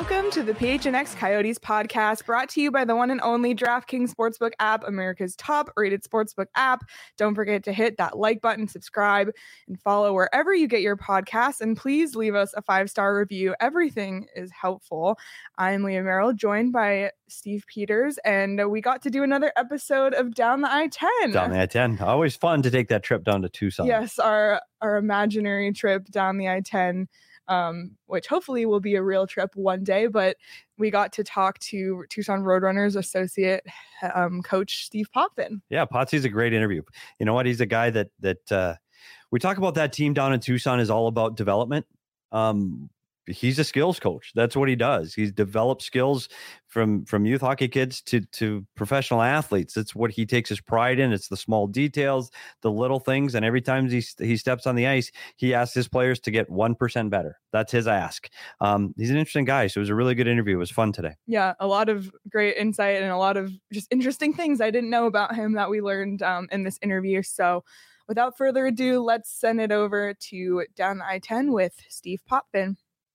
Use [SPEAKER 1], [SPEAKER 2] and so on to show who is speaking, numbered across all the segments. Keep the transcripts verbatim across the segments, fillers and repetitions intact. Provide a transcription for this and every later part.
[SPEAKER 1] Welcome to the P H N X Coyotes podcast, brought to you by the one and only DraftKings Sportsbook app, America's top-rated sportsbook app. Don't forget to hit that like button, subscribe, and follow wherever you get your podcasts. And please leave us a five-star review. Everything is helpful. I'm Leah Merrill, joined by Steve Peters, and we got to do another episode of Down the I ten.
[SPEAKER 2] Down the I ten. Always fun to take that trip down to Tucson.
[SPEAKER 1] Yes, our, our imaginary trip down the I ten. Um, which hopefully will be a real trip one day, but we got to talk to Tucson Roadrunners associate um, coach Steve Potvin.
[SPEAKER 2] Yeah, Potsy's a great interview. You know what? He's a guy that, that uh, we talk about. That team down in Tucson is all about development. Um, he's a skills coach. That's what he does. He's developed skills from, from youth hockey kids to, to professional athletes. It's what he takes his pride in. It's the small details, the little things. And every time he, he steps on the ice, he asks his players to get one percent better. That's his ask. Um, he's an interesting guy. So it was a really good interview. It was fun today.
[SPEAKER 1] Yeah. A lot of great insight and a lot of just interesting things I didn't know about him that we learned um, in this interview. So without further ado, let's send it over to Down the I ten with Steve Potvin.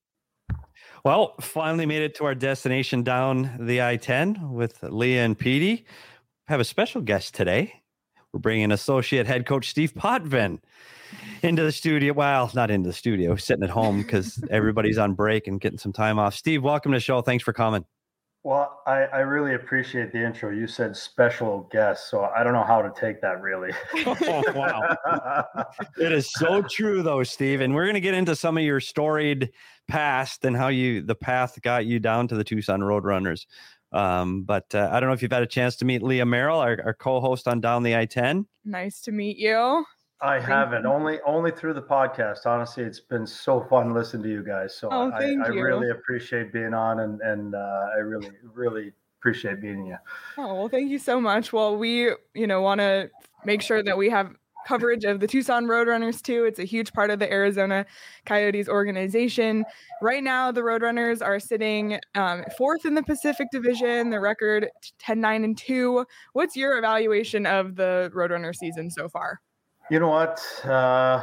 [SPEAKER 2] Well, finally made it to our destination down the I ten with Leah and Petey. Have a special guest today. We're bringing associate head coach Steve Potvin into the studio. Well, not into the studio, sitting at home because everybody's on break and getting some time off. Steve, welcome to the show. Thanks for coming.
[SPEAKER 3] Well, I, I really appreciate the intro. You said special guest, so I don't know how to take that really.
[SPEAKER 2] Oh, wow. It is so true though, Steve. And we're going to get into some of your storied past and how you, the path got you down to the Tucson Roadrunners. Um, but uh, I don't know if you've had a chance to meet Leah Merrill, our, our co-host on Down the I ten.
[SPEAKER 1] Nice to meet you.
[SPEAKER 3] I haven't, only only through the podcast. Honestly, it's been so fun listening to you guys. So
[SPEAKER 1] oh,
[SPEAKER 3] I,
[SPEAKER 1] thank
[SPEAKER 3] I
[SPEAKER 1] you.
[SPEAKER 3] really appreciate being on, and, and uh, I really, really appreciate meeting you.
[SPEAKER 1] Oh, well, thank you so much. Well, we, you know, want to make sure that we have coverage of the Tucson Roadrunners too. It's a huge part of the Arizona Coyotes organization. Right now, the Roadrunners are sitting um, fourth in the Pacific Division. The record ten nine and two. What's your evaluation of the Roadrunner season so far?
[SPEAKER 3] You know what? Uh,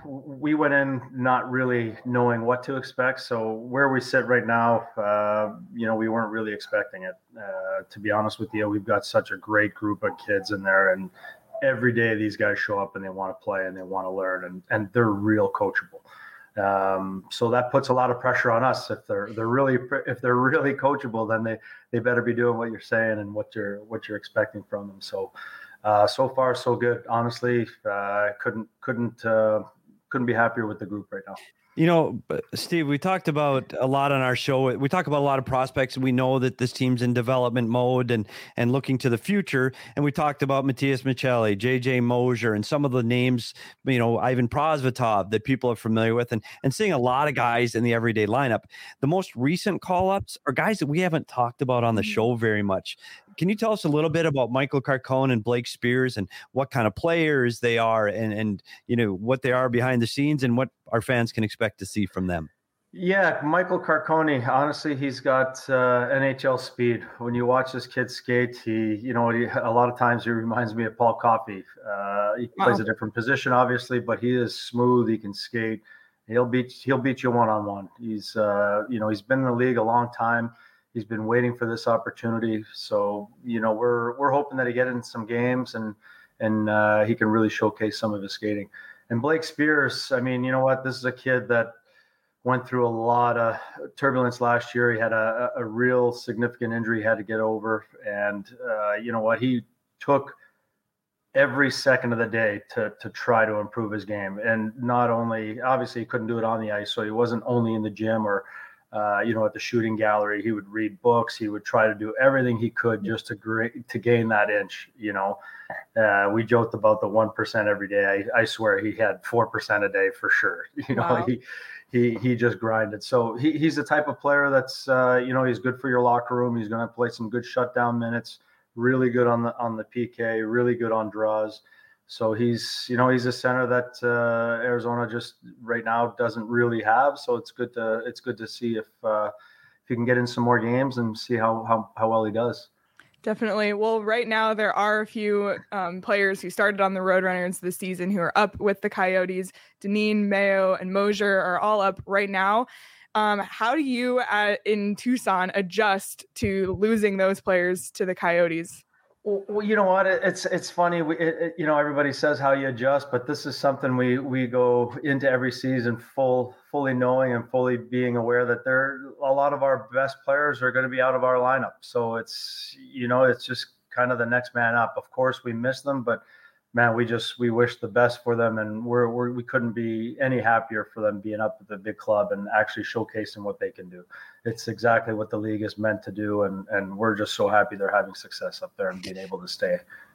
[SPEAKER 3] we went in not really knowing what to expect. So where we sit right now, uh, you know, we weren't really expecting it. Uh, to be honest with you, we've got such a great group of kids in there, and every day these guys show up and they want to play and they want to learn, and, and they're real coachable. Um, so that puts a lot of pressure on us. If they're they're really if they're really coachable, then they they better be doing what you're saying and what you're what you're expecting from them. So. Uh, so far, so good. Honestly, uh, couldn't couldn't uh, couldn't be happier with the group right now.
[SPEAKER 2] You know, Steve, we talked about a lot on our show. We talk about a lot of prospects. We know that this team's in development mode and and looking to the future. And we talked about Matias Michelli, J J Mosier, and some of the names, you know, Ivan Prosvetov that people are familiar with, and, and seeing a lot of guys in the everyday lineup. The most recent call-ups are guys that we haven't talked about on the show very much. Can you tell us a little bit about Michael Carcone and Blake Spears and what kind of players they are, and, and you know, what they are behind the scenes and what our fans can expect to see from them?
[SPEAKER 3] Yeah, Michael Carcone, honestly, he's got uh, N H L speed. When you watch this kid skate, he, you know, he, a lot of times he reminds me of Paul Coffey. Uh, he wow. plays a different position, obviously, but he is smooth. He can skate. He'll beat he'll beat you one-on-one. He's, uh, you know, he's been in the league a long time. He's been waiting for this opportunity. So, you know, we're we're hoping that he get in some games and and uh, he can really showcase some of his skating. And Blake Spears, I mean, you know what? This is a kid that went through a lot of turbulence last year. He had a, a real significant injury he had to get over. And uh, you know what? He took every second of the day to to try to improve his game. And not only, obviously, he couldn't do it on the ice, so he wasn't only in the gym or Uh, you know, at the shooting gallery. He would read books. He would try to do everything he could just to gra- to gain that inch. You know, uh, we joked about the one percent every day. I, I swear he had four percent a day for sure. You know,
[SPEAKER 1] wow.
[SPEAKER 3] he he he just grinded. So he, he's the type of player that's uh, you know, he's good for your locker room. He's going to play some good shutdown minutes. Really good on the on the P K. Really good on draws. So he's, you know, he's a center that uh, Arizona just right now doesn't really have. So it's good to it's good to see if uh, if he can get in some more games and see how how, how well he does.
[SPEAKER 1] Definitely. Well, right now there are a few um, players who started on the Roadrunners this season who are up with the Coyotes. Deneen, Mayo, and Mosier are all up right now. Um, how do you uh, in Tucson adjust to losing those players to the Coyotes?
[SPEAKER 3] Well, you know what? It's it's funny. We, it, it, you know, everybody says how you adjust, but this is something we we go into every season full fully knowing and fully being aware that there a lot of our best players are going to be out of our lineup. So it's you know it's just kind of the next man up. Of course, we miss them, but man, we just we wish the best for them, and we're, we're we couldn't be any happier for them being up at the big club and actually showcasing what they can do. It's exactly what the league is meant to do, and and we're just so happy they're having success up there and being able to stay.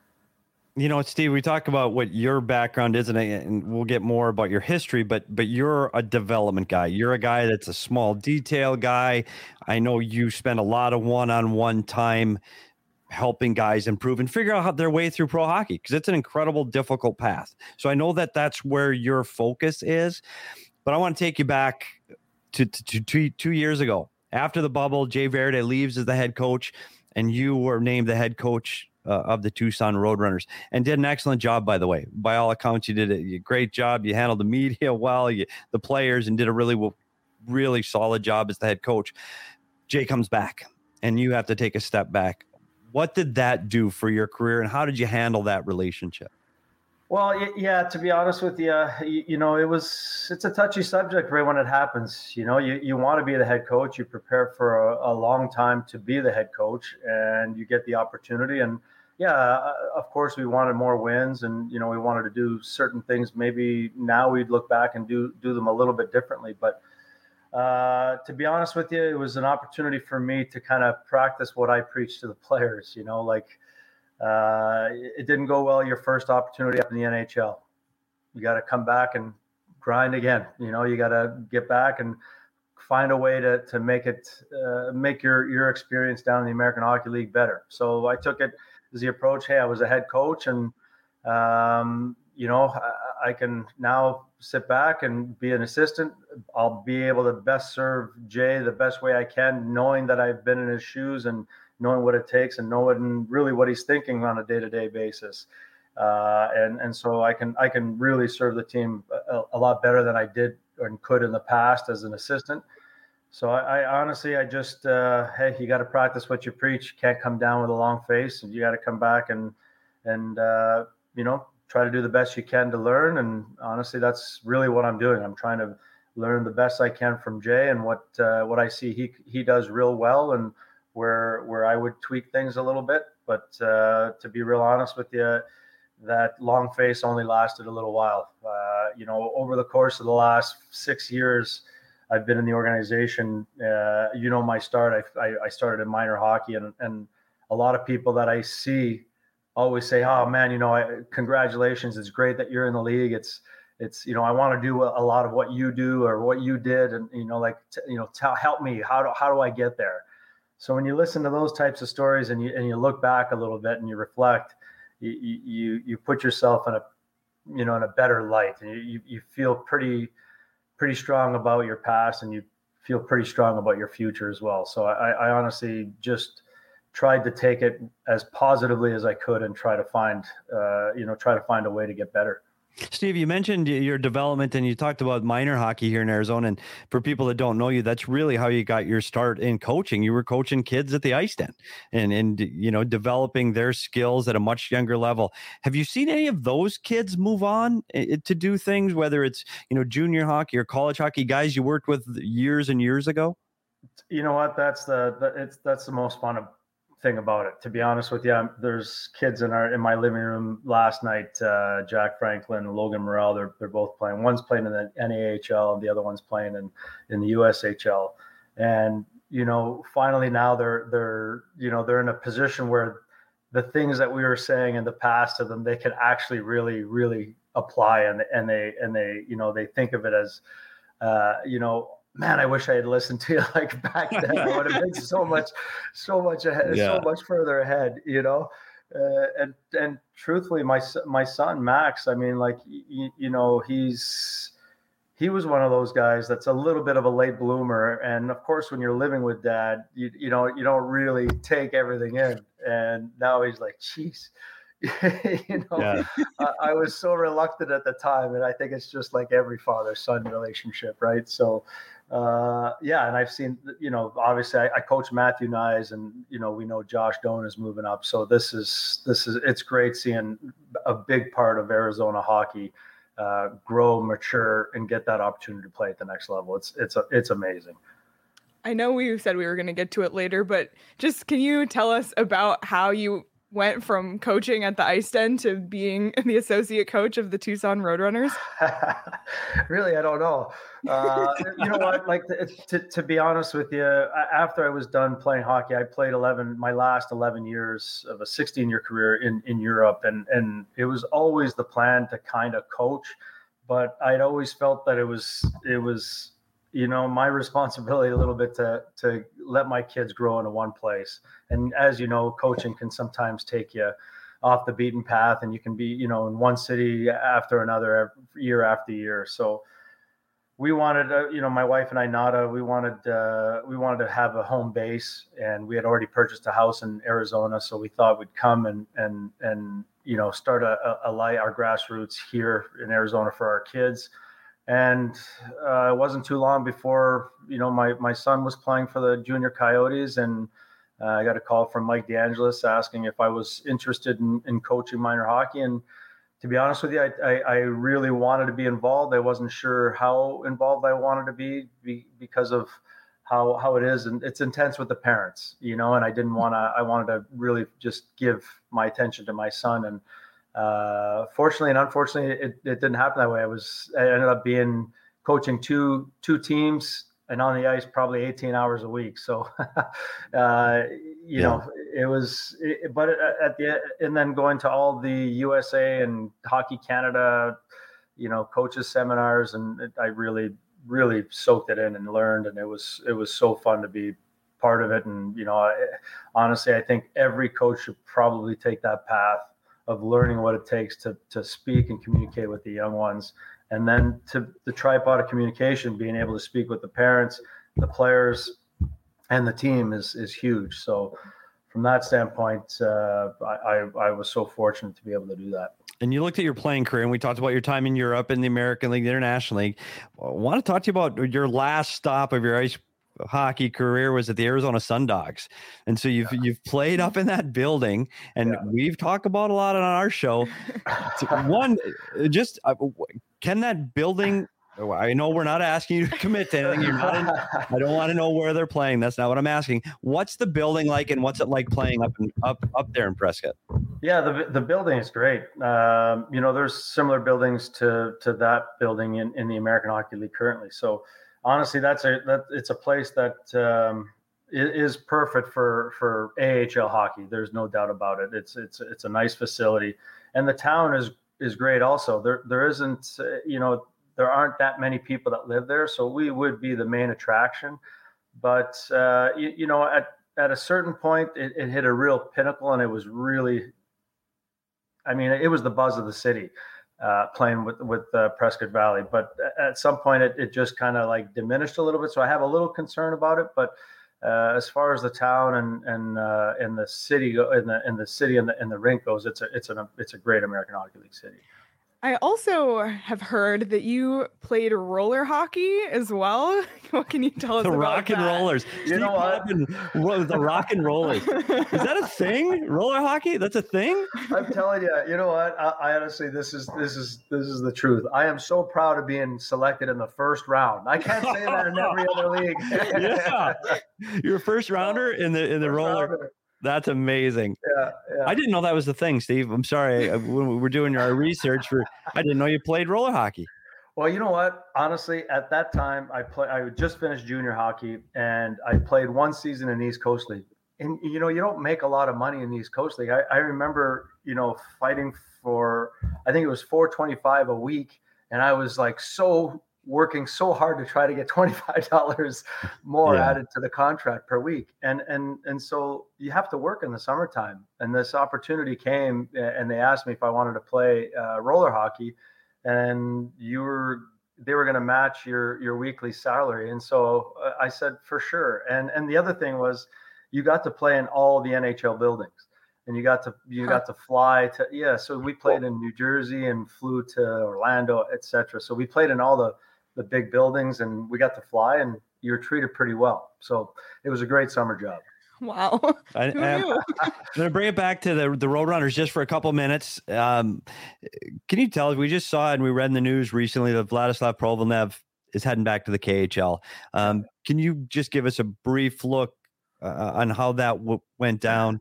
[SPEAKER 2] You know, Steve, we talk about what your background is, and, and we'll get more about your history, but but you're a development guy. You're a guy that's a small detail guy. I know you spend a lot of one-on-one time helping guys improve and figure out how their way through pro hockey, because it's an incredible, difficult path. So I know that that's where your focus is, but I want to take you back to, to, to two years ago. After the bubble, Jay Verde leaves as the head coach, and you were named the head coach uh, of the Tucson Roadrunners, and did an excellent job, by the way. By all accounts, you did a great job. You handled the media well, you, the players, and did a really, really solid job as the head coach. Jay comes back, and you have to take a step back. What did that do for your career, and how did you handle that relationship?
[SPEAKER 3] Well, yeah, to be honest with you, you, you know, it was, it's a touchy subject right when it happens. You know, you, you want to be the head coach, you prepare for a, a long time to be the head coach, and you get the opportunity. And yeah, of course we wanted more wins, and, you know, we wanted to do certain things. Maybe now we'd look back and do, do them a little bit differently, but Uh, to be honest with you, it was an opportunity for me to kind of practice what I preach to the players. You know, like uh, it didn't go well your first opportunity up in the N H L. You got to come back and grind again. You know, you got to get back and find a way to to make it uh, make your your experience down in the American Hockey League better. So I took it as the approach. Hey, I was a head coach, and um, you know, I, I can now sit back and be an assistant. I'll be able to best serve Jay the best way I can, knowing that I've been in his shoes and knowing what it takes and knowing really what he's thinking on a day-to-day basis. Uh, and, and so I can, I can really serve the team a, a lot better than I did and could in the past as an assistant. So I, I honestly, I just, uh, hey, you got to practice what you preach. You can't come down with a long face, and you got to come back and, and, uh, you know, try to do the best you can to learn. And honestly, that's really what I'm doing. I'm trying to learn the best I can from Jay, and what uh, what I see he he does real well, and where where I would tweak things a little bit. But uh, to be real honest with you, that long face only lasted a little while. Uh, you know, over the course of the last six years, I've been in the organization. Uh, you know, my start, I, I I started in minor hockey, and and a lot of people that I see always say, "Oh man, you know, I, congratulations! It's great that you're in the league. It's, it's, you know, I want to do a, a lot of what you do or what you did, and you know, like, t- you know, tell, help me. How do how do I get there?" So when you listen to those types of stories and you and you look back a little bit and you reflect, you you you put yourself in a, you know, in a better light, and you you feel pretty pretty strong about your past, and you feel pretty strong about your future as well. So I, I honestly just tried to take it as positively as I could and try to find, uh, you know, try to find a way to get better.
[SPEAKER 2] Steve, you mentioned your development, and you talked about minor hockey here in Arizona. And for people that don't know you, that's really how you got your start in coaching. You were coaching kids at the ice den, and, and, you know, developing their skills at a much younger level. Have you seen any of those kids move on to do things, whether it's, you know, junior hockey or college hockey, guys you worked with years and years ago?
[SPEAKER 3] You know what? That's the, the it's, that's the most fun of, thing about it, to be honest with you. There's kids in our in my living room last night, uh Jack Franklin and Logan Morrell. They're they're both playing. One's playing in the N A H L and the other one's playing in in the U S H L. And you know, finally now they're they're you know they're in a position where the things that we were saying in the past to them, they can actually really really apply, and and they and they you know they think of it as uh you know man, I wish I had listened to you like back then. I would have been so much, so much ahead, yeah. so much further ahead, you know? Uh, and, and truthfully, my, my son, Max, I mean, like, you, you know, he's, he was one of those guys that's a little bit of a late bloomer. And of course, when you're living with dad, you, you know, you don't really take everything in. And now he's like, geez, you know, yeah. I, I was so reluctant at the time. And I think it's just like every father-son relationship, right? So, uh, yeah, and I've seen, you know, obviously I, I coach Matthew Nyes, and you know, we know Josh Doan is moving up. So this is this is it's great seeing a big part of Arizona hockey uh, grow, mature, and get that opportunity to play at the next level. It's it's a, it's amazing.
[SPEAKER 1] I know we said we were going to get to it later, but just can you tell us about how you went from coaching at the Ice Den to being the associate coach of the Tucson Roadrunners?
[SPEAKER 3] Really, I don't know. Uh, you know what? Like to, to, to be honest with you, after I was done playing hockey, I played eleven, my last eleven years of a sixteen year career in, in Europe. And, and it was always the plan to kind of coach, but I'd always felt that it was, it was, you know, my responsibility a little bit to to let my kids grow into one place. And as you know, coaching can sometimes take you off the beaten path, and you can be, you know, in one city after another, year after year. So we wanted, uh, you know, my wife and I, Nada, we wanted uh, we wanted to have a home base, and we had already purchased a house in Arizona, so we thought we'd come and and and you know start a, a, a light our grassroots here in Arizona for our kids. And uh, it wasn't too long before, you know, my, my son was playing for the Junior Coyotes, and uh, I got a call from Mike DeAngelis asking if I was interested in, in coaching minor hockey. And to be honest with you, I, I, I really wanted to be involved. I wasn't sure how involved I wanted to be, be because of how how it is, and it's intense with the parents, you know. And I didn't want to. I wanted to really just give my attention to my son. And Uh, fortunately and unfortunately, it, it didn't happen that way. I was, I ended up being coaching two, two teams and on the ice probably eighteen hours a week. So, uh, you yeah. know, it was, it, but at the, and then going to all the U S A and Hockey Canada, you know, coaches seminars. And it, I really, really soaked it in and learned. And it was, it was so fun to be part of it. And, you know, I, honestly, I think every coach should probably take that path of learning what it takes to to speak and communicate with the young ones. And then to the tripod of communication, being able to speak with the parents, the players, and the team is is huge. So from that standpoint, uh, I, I, I was so fortunate to be able to do that.
[SPEAKER 2] And you looked at your playing career, and we talked about your time in Europe in the American League, the International League. I want to talk to you about your last stop of your ice hockey career was at the Arizona Sundogs. And so you've, yeah. you've played up in that building, and yeah. we've talked about a lot on our show. One, just uh, can that building, I know we're not asking you to commit to anything. You're not in, I don't want to know where they're playing. That's not what I'm asking. What's the building like, and what's it like playing up and up, up there in Prescott?
[SPEAKER 3] Yeah, the the building is great. Um, you know, there's similar buildings to, to that building in, in the American Hockey League currently. So honestly, that's a that it's a place that um, is perfect for for A H L hockey. There's no doubt about it. It's it's it's a nice facility, and the town is is great. Also, there there isn't uh, you know there aren't that many people that live there, so we would be the main attraction. But uh, you, you know, at at a certain point, it, it hit a real pinnacle, and it was really, I mean, it was the buzz of the city. Uh, playing with with uh, Prescott Valley, but at some point it, it just kind of like diminished a little bit. So I have a little concern about it. But uh, as far as the town and and uh, and the city in the in the city and the and the rink goes, it's a it's a it's a great American Hockey League city.
[SPEAKER 1] I also have heard that you played roller hockey as well. What can you tell us
[SPEAKER 2] the
[SPEAKER 1] about
[SPEAKER 2] rock and
[SPEAKER 1] that?
[SPEAKER 2] rollers?
[SPEAKER 3] You
[SPEAKER 2] Steve
[SPEAKER 3] know what?
[SPEAKER 2] And, the rock and rollers. Is that a thing? Roller hockey? That's a thing?
[SPEAKER 3] I'm telling you. You know what? I, I honestly, this is this is this is the truth. I am so proud of being selected in the first round. I can't say that in every other league.
[SPEAKER 2] Yeah, you're a first rounder in the in the first roller. Rounder. That's amazing.
[SPEAKER 3] Yeah, yeah.
[SPEAKER 2] I didn't know that was the thing, Steve. I'm sorry. When we were doing our research for, I didn't know you played roller hockey.
[SPEAKER 3] Well, you know what? Honestly, at that time, I play. I just finished junior hockey, and I played one season in East Coast League. And you know, you don't make a lot of money in the East Coast League. I, I remember, you know, fighting for, I think it was four twenty-five a week, and I was like so. working so hard to try to get twenty-five dollars more yeah. added to the contract per week. And, and, and so you have to work in the summertime, and this opportunity came, and they asked me if I wanted to play uh, roller hockey, and you were, they were going to match your, your weekly salary. And so I said, for sure. And, and the other thing was you got to play in all the N H L buildings. And you got to you got to fly to yeah. So we played in New Jersey and flew to Orlando, et cetera. So we played in all the the big buildings, and we got to fly, and you're treated pretty well. So it was a great summer job.
[SPEAKER 1] Wow.
[SPEAKER 2] I,
[SPEAKER 1] Who
[SPEAKER 2] I'm,
[SPEAKER 1] knew?
[SPEAKER 2] I'm going to bring it back to the, the Roadrunners just for a couple minutes. Um, can you tell us, we just saw it and we read in the news recently that Vladislav Provalnev is heading back to the K H L. Um, can you just give us a brief look uh, on how that w- went down?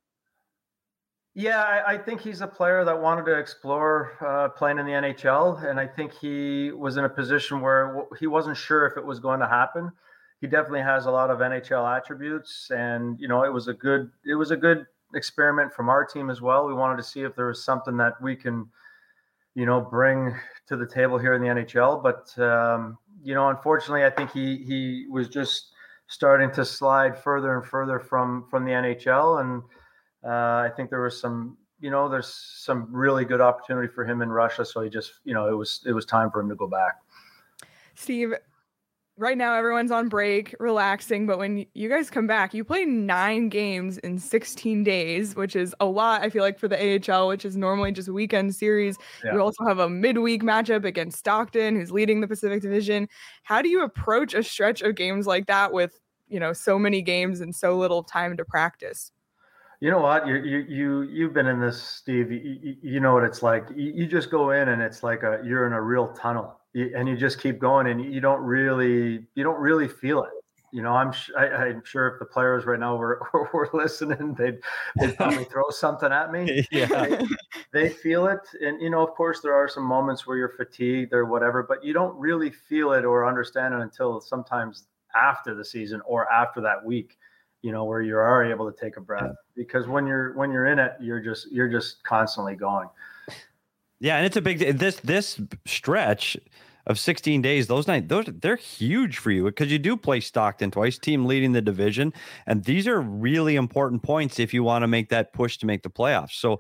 [SPEAKER 3] Yeah, I, I think he's a player that wanted to explore uh, playing in the N H L. And I think he was in a position where he wasn't sure if it was going to happen. He definitely has a lot of N H L attributes, and you know, it was a good it was a good experiment from our team as well. We wanted to see if there was something that we can, you know, bring to the table here in the N H L. But um, you know, unfortunately, I think he he was just starting to slide further and further from from the N H L, and uh, I think there was some, you know, there's some really good opportunity for him in Russia. So he just, you know, it was it was time for him to go back.
[SPEAKER 1] Steve, right now everyone's on break, relaxing, but when you guys come back, you play nine games in sixteen days, which is a lot, I feel like, for the A H L, which is normally just a weekend series. Yeah. You also have a midweek matchup against Stockton, who's leading the Pacific Division. How do you approach a stretch of games like that with, you know, so many games and so little time to practice?
[SPEAKER 3] You know what? You you you you've been in this, Steve. You, you know what it's like. You, you just go in and it's like a you're in a real tunnel, you, and you just keep going, and you don't really you don't really feel it. You know, I'm I, I'm sure if the players right now were were listening, they'd they'd probably throw something at me.
[SPEAKER 2] Yeah,
[SPEAKER 3] they, they feel it, and you know, of course, there are some moments where you're fatigued or whatever, but you don't really feel it or understand it until sometimes after the season or after that week. You know, where you are able to take a breath, because when you're when you're in it, you're just you're just constantly going.
[SPEAKER 2] Yeah, and it's a big this this stretch of sixteen days. Those night those they're huge for you because you do play Stockton twice, team leading the division, and these are really important points if you want to make that push to make the playoffs. So,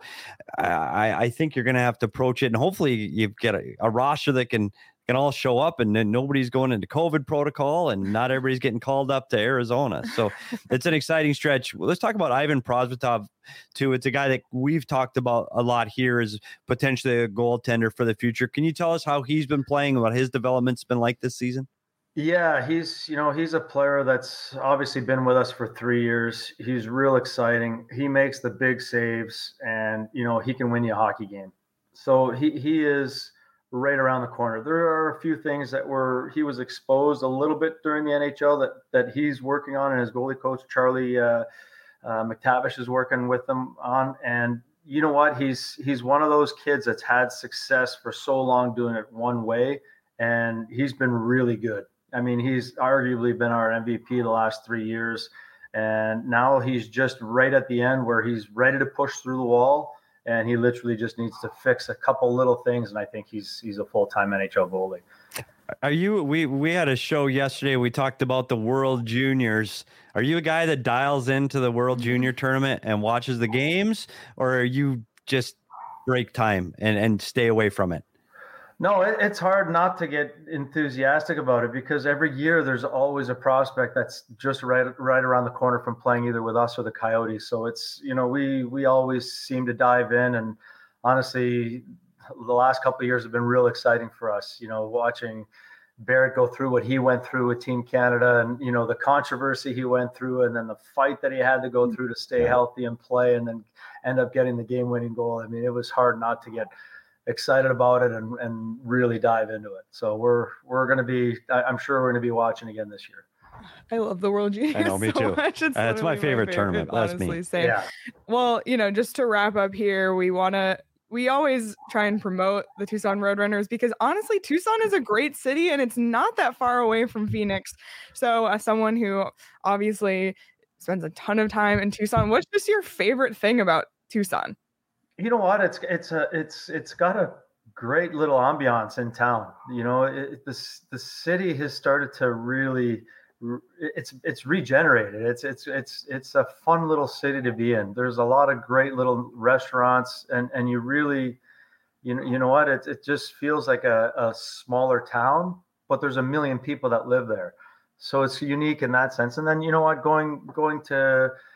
[SPEAKER 2] I I think you're going to have to approach it, and hopefully you get a, a roster that can. can all show up, and then nobody's going into COVID protocol, and not everybody's getting called up to Arizona. So it's an exciting stretch. Well, let's talk about Ivan Prosvetov too. It's a guy that we've talked about a lot here as potentially a goaltender for the future. Can you tell us how he's been playing, what his development's been like this season?
[SPEAKER 3] Yeah, he's, you know, he's a player that's obviously been with us for three years. He's real exciting. He makes the big saves, and, you know, he can win you a hockey game. So he, he is right around the corner. There are a few things that were he was exposed a little bit during the N H L that that he's working on, and his goalie coach Charlie uh, uh, McTavish is working with him on. And you know what? He's he's one of those kids that's had success for so long doing it one way, and he's been really good. I mean, he's arguably been our M V P the last three years, and now he's just right at the end where he's ready to push through the wall. And he literally just needs to fix a couple little things, and I think he's he's a full-time N H L goalie.
[SPEAKER 2] Are you? We we had a show yesterday. We talked about the World Juniors. Are you a guy that dials into the World Junior tournament and watches the games, or are you just break time and and stay away from it?
[SPEAKER 3] No, it, it's hard not to get enthusiastic about it, because every year there's always a prospect that's just right right around the corner from playing either with us or the Coyotes. So it's, you know, we we always seem to dive in, and honestly, the last couple of years have been real exciting for us. You know, watching Barrett go through what he went through with Team Canada, and you know the controversy he went through, and then the fight that he had to go through to stay healthy and play, and then end up getting the game-winning goal. I mean, it was hard not to get excited about it and, and really dive into it. So we're we're going to be, I'm sure we're going to be watching again this year.
[SPEAKER 1] I love the World Juniors.
[SPEAKER 2] I know, me
[SPEAKER 1] so
[SPEAKER 2] too.
[SPEAKER 1] Much. It's
[SPEAKER 2] That's my favorite,
[SPEAKER 1] my favorite
[SPEAKER 2] tournament. That's
[SPEAKER 1] honestly,
[SPEAKER 2] me.
[SPEAKER 1] Same.
[SPEAKER 3] Yeah.
[SPEAKER 1] Well, you know, just to wrap up here, we want to, we always try and promote the Tucson Roadrunners because honestly, Tucson is a great city and it's not that far away from Phoenix. So as someone who obviously spends a ton of time in Tucson, what's just your favorite thing about Tucson?
[SPEAKER 3] You know what? It's, it's a, it's, it's got a great little ambiance in town. You know, it, this, the city has started to really, it's, it's regenerated. It's, it's, it's, it's a fun little city to be in. There's a lot of great little restaurants, and, and you really, you know, you know what? It, it just feels like a, a smaller town, but there's a million people that live there. So it's unique in that sense. And then, you know what, going, going to,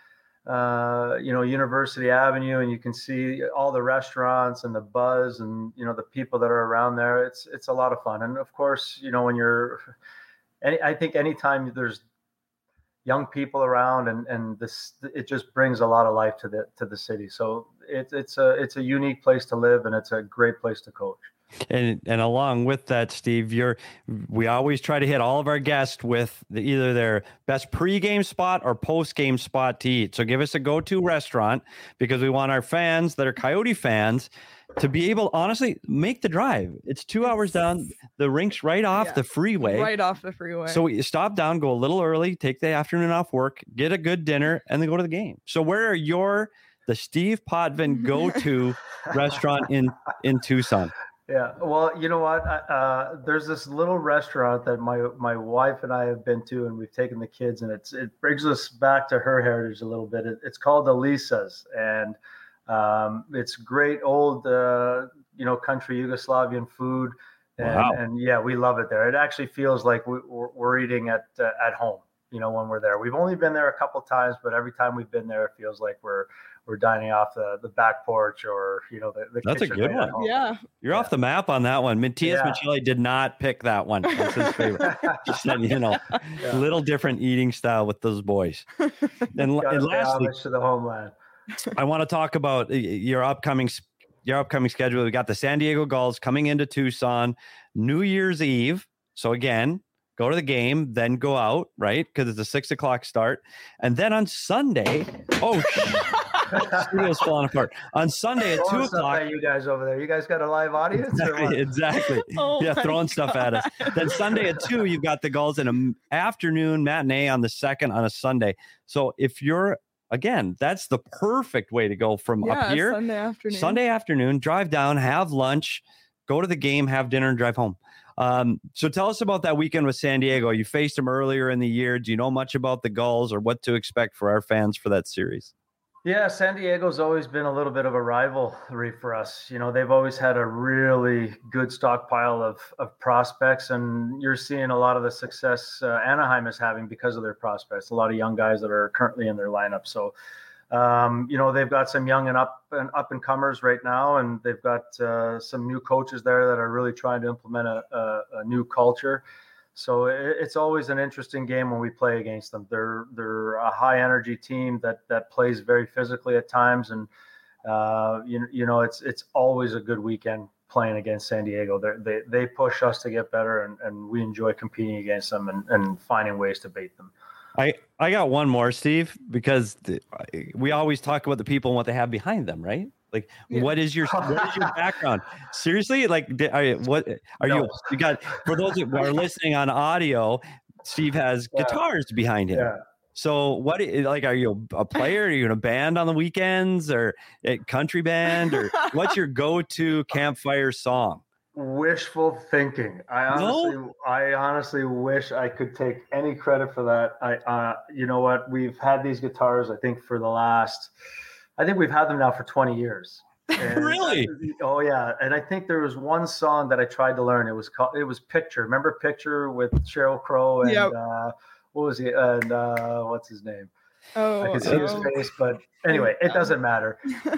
[SPEAKER 3] uh, you know, University Avenue, and you can see all the restaurants and the buzz and, you know, the people that are around there. It's, it's a lot of fun. And of course, you know, when you're, any, I think anytime there's young people around and, and this, it just brings a lot of life to the, to the city. So it's, it's a, it's a unique place to live, and it's a great place to coach.
[SPEAKER 2] And and along with that, Steve, you're we always try to hit all of our guests with the, either their best pregame spot or postgame spot to eat. So give us a go-to restaurant, because we want our fans that are Coyote fans to be able, honestly, make the drive. It's two hours down. The rink's right off yeah, the freeway.
[SPEAKER 1] Right off the freeway.
[SPEAKER 2] So you stop down, go a little early, take the afternoon off work, get a good dinner, and then go to the game. So where are your the Steve Potvin go-to restaurant in in Tucson?
[SPEAKER 3] Yeah, well, you know what? Uh, there's this little restaurant that my my wife and I have been to, and we've taken the kids, and it's it brings us back to her heritage a little bit. It, it's called Elisa's, and um, it's great old, uh, you know, country Yugoslavian food, and, wow. and yeah, we love it there. It actually feels like we, we're, we're eating at uh, at home, you know, when we're there. We've only been there a couple times, but every time we've been there, it feels like we're we're dining off the, the back porch, or, you know, the, the
[SPEAKER 2] That's a good one.
[SPEAKER 1] Yeah.
[SPEAKER 2] You're yeah. off the map on that one. Matthias yeah. Michelli did not pick that one. That's his favorite. Just said, you know, yeah. little different eating style with those boys. And, and lastly,
[SPEAKER 3] to the homeland.
[SPEAKER 2] I want to talk about your upcoming, your upcoming schedule. We got the San Diego Gulls coming into Tucson, New Year's Eve. So again, go to the game, then go out, right? Because it's a six o'clock start. And then on Sunday, oh, studio's falling apart. On Sunday at two o'clock.
[SPEAKER 3] You guys over there, you guys got a live audience?
[SPEAKER 2] Exactly. exactly. Oh yeah, throwing God. stuff at us. Then Sunday at two, you've got the Gulls in an afternoon matinee on the second on a Sunday. So if you're, again, that's the perfect way to go from
[SPEAKER 1] yeah,
[SPEAKER 2] up here.
[SPEAKER 1] Sunday afternoon.
[SPEAKER 2] Sunday afternoon, drive down, have lunch, go to the game, have dinner, and drive home. Um, so tell us about that weekend with San Diego. You faced them earlier in the year. Do you know much about the Gulls or what to expect for our fans for that series?
[SPEAKER 3] Yeah, San Diego's always been a little bit of a rivalry for us. You know, they've always had a really good stockpile of of prospects, and you're seeing a lot of the success uh, Anaheim is having because of their prospects. A lot of young guys that are currently in their lineup. So, um, you know, they've got some young and up and up and comers right now, and they've got uh, some new coaches there that are really trying to implement a, a, a new culture. So it's always an interesting game when we play against them. They're they're a high energy team that that plays very physically at times, and uh, you you know it's it's always a good weekend playing against San Diego. They're, they they push us to get better, and, and we enjoy competing against them and, and finding ways to beat them.
[SPEAKER 2] I, I got one more, Steve, because the, we always talk about the people and what they have behind them, right? Like, yeah. what is your what is your background? Seriously, like, are you, what are no. you? You got for those who are listening on audio. Steve has yeah. guitars behind him.
[SPEAKER 3] Yeah.
[SPEAKER 2] So, what like are you a player? Are you in a band on the weekends or a country band, or what's your go-to campfire song?
[SPEAKER 3] Wishful thinking. I honestly, no? I honestly wish I could take any credit for that. I, uh, you know what? We've had these guitars, I think, for the last. I think we've had them now for twenty years. And,
[SPEAKER 2] really?
[SPEAKER 3] Oh yeah. And I think there was one song that I tried to learn. It was called, it was Picture. Remember Picture with Sheryl Crow and yep. uh, what was he? And uh, what's his name?
[SPEAKER 1] Oh,
[SPEAKER 3] I can see
[SPEAKER 1] oh.
[SPEAKER 3] his face, but anyway, it doesn't matter.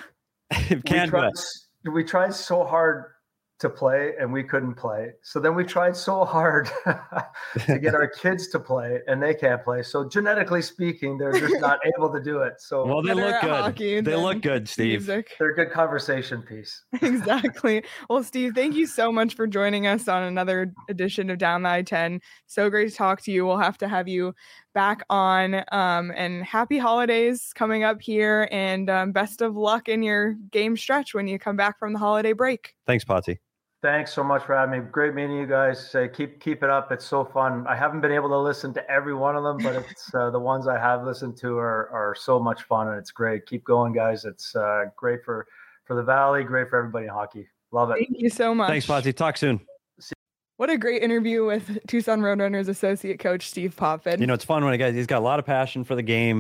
[SPEAKER 2] we, tried,
[SPEAKER 3] we tried so hard to play and we couldn't play. So then we tried so hard to get our kids to play and they can't play. So genetically speaking, they're just not able to do it. So
[SPEAKER 2] well, they look good. They look good, Steve.
[SPEAKER 1] Music.
[SPEAKER 3] They're a good conversation piece.
[SPEAKER 1] Exactly. Well, Steve, thank you so much for joining us on another edition of Down the I ten. So great to talk to you. We'll have to have you back on, um, and happy holidays coming up here, and um, best of luck in your game stretch when you come back from the holiday break.
[SPEAKER 2] Thanks, Potsy.
[SPEAKER 3] Thanks so much for having me. Great meeting you guys. Uh, keep keep it up. It's so fun. I haven't been able to listen to every one of them, but it's uh, the ones I have listened to are are so much fun, and it's great. Keep going, guys. It's uh, great for for the Valley. Great for everybody in hockey. Love it.
[SPEAKER 1] Thank you so much.
[SPEAKER 2] Thanks, Potsy. Talk soon.
[SPEAKER 1] What a great interview with Tucson Roadrunners associate coach Steve Potvin.
[SPEAKER 2] You know, it's fun when a guy, he's got a lot of passion for the game.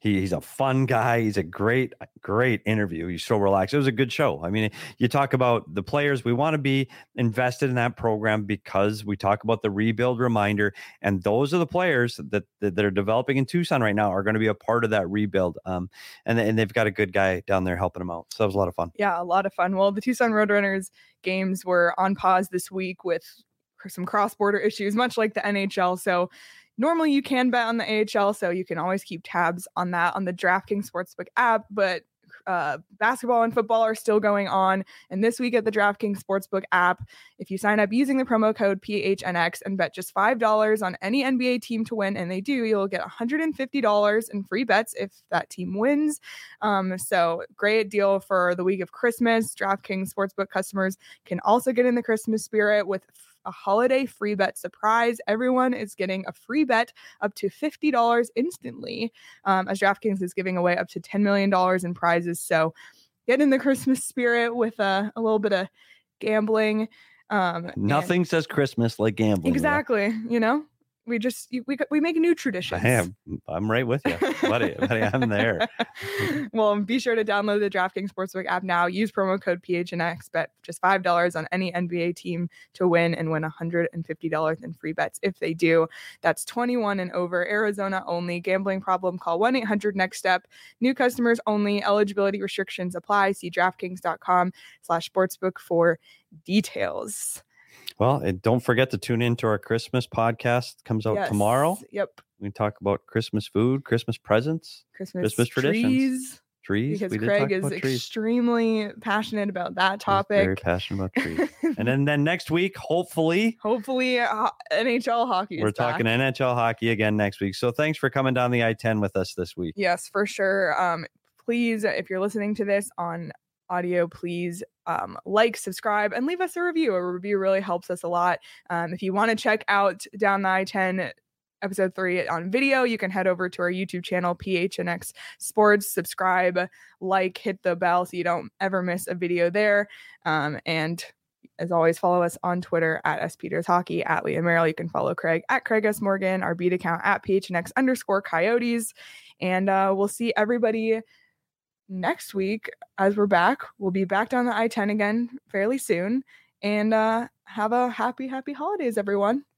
[SPEAKER 2] He, he's a fun guy. He's a great, great interview. He's so relaxed. It was a good show. I mean, you talk about the players. We want to be invested in that program because we talk about the rebuild reminder. And those are the players that, that, that are developing in Tucson right now are going to be a part of that rebuild. Um, and, and they've got a good guy down there helping them out. So that was a lot of fun.
[SPEAKER 1] Yeah, a lot of fun. Well, the Tucson Roadrunners games were on pause this week with some cross-border issues, much like the N H L. So normally you can bet on the A H L, so you can always keep tabs on that on the DraftKings Sportsbook app. But uh, basketball and football are still going on. And this week at the DraftKings Sportsbook app, if you sign up using the promo code P H N X and bet just five dollars on any N B A team to win, and they do, you'll get one hundred fifty dollars in free bets if that team wins. Um, so great deal for the week of Christmas. DraftKings Sportsbook customers can also get in the Christmas spirit with a holiday free bet surprise. Everyone is getting a free bet up to fifty dollars instantly, um, as DraftKings is giving away up to ten million dollars in prizes. So get in the Christmas spirit with a, a little bit of gambling. Um,
[SPEAKER 2] Nothing
[SPEAKER 1] and-
[SPEAKER 2] says Christmas like gambling.
[SPEAKER 1] Exactly. You know, we just, we, we make new traditions.
[SPEAKER 2] I am. I'm right with you, buddy. buddy I'm there.
[SPEAKER 1] Well, be sure to download the DraftKings Sportsbook app now. Use promo code P H N X. Bet just five dollars on any N B A team to win and win one hundred fifty dollars in free bets if they do. That's twenty-one and over. Arizona only. Gambling problem? Call one eight hundred next step. New customers only. Eligibility restrictions apply. See DraftKings.com slash sportsbook for details.
[SPEAKER 2] Well, and don't forget to tune in to our Christmas podcast. Comes out
[SPEAKER 1] Yes.
[SPEAKER 2] tomorrow.
[SPEAKER 1] Yep.
[SPEAKER 2] We talk about Christmas food, Christmas presents,
[SPEAKER 1] Christmas,
[SPEAKER 2] Christmas traditions.
[SPEAKER 1] trees.
[SPEAKER 2] trees.
[SPEAKER 1] Because
[SPEAKER 2] We did
[SPEAKER 1] Craig
[SPEAKER 2] talk
[SPEAKER 1] is
[SPEAKER 2] about trees.
[SPEAKER 1] extremely passionate about that
[SPEAKER 2] He's
[SPEAKER 1] topic.
[SPEAKER 2] very passionate about trees. and then, then next week, hopefully,
[SPEAKER 1] Hopefully, uh, N H L hockey is
[SPEAKER 2] we're
[SPEAKER 1] back.
[SPEAKER 2] talking N H L hockey again next week. So thanks for coming down the I ten with us this week.
[SPEAKER 1] Yes, for sure. Um, please, if you're listening to this on audio, please um, like, subscribe, and leave us a review. A review really helps us a lot. Um, if you want to check out Down the I ten episode three on video, you can head over to our YouTube channel, P H N X Sports, subscribe, like, hit the bell so you don't ever miss a video there. Um, and as always, follow us on Twitter at S Peters Hockey, at Leah Merrill. You can follow Craig at Craig S. Morgan, our beat account at P H N X underscore Coyotes. And uh, we'll see everybody next week as we're back. We'll be back down the I ten again fairly soon. And uh, have a happy, happy holidays, everyone.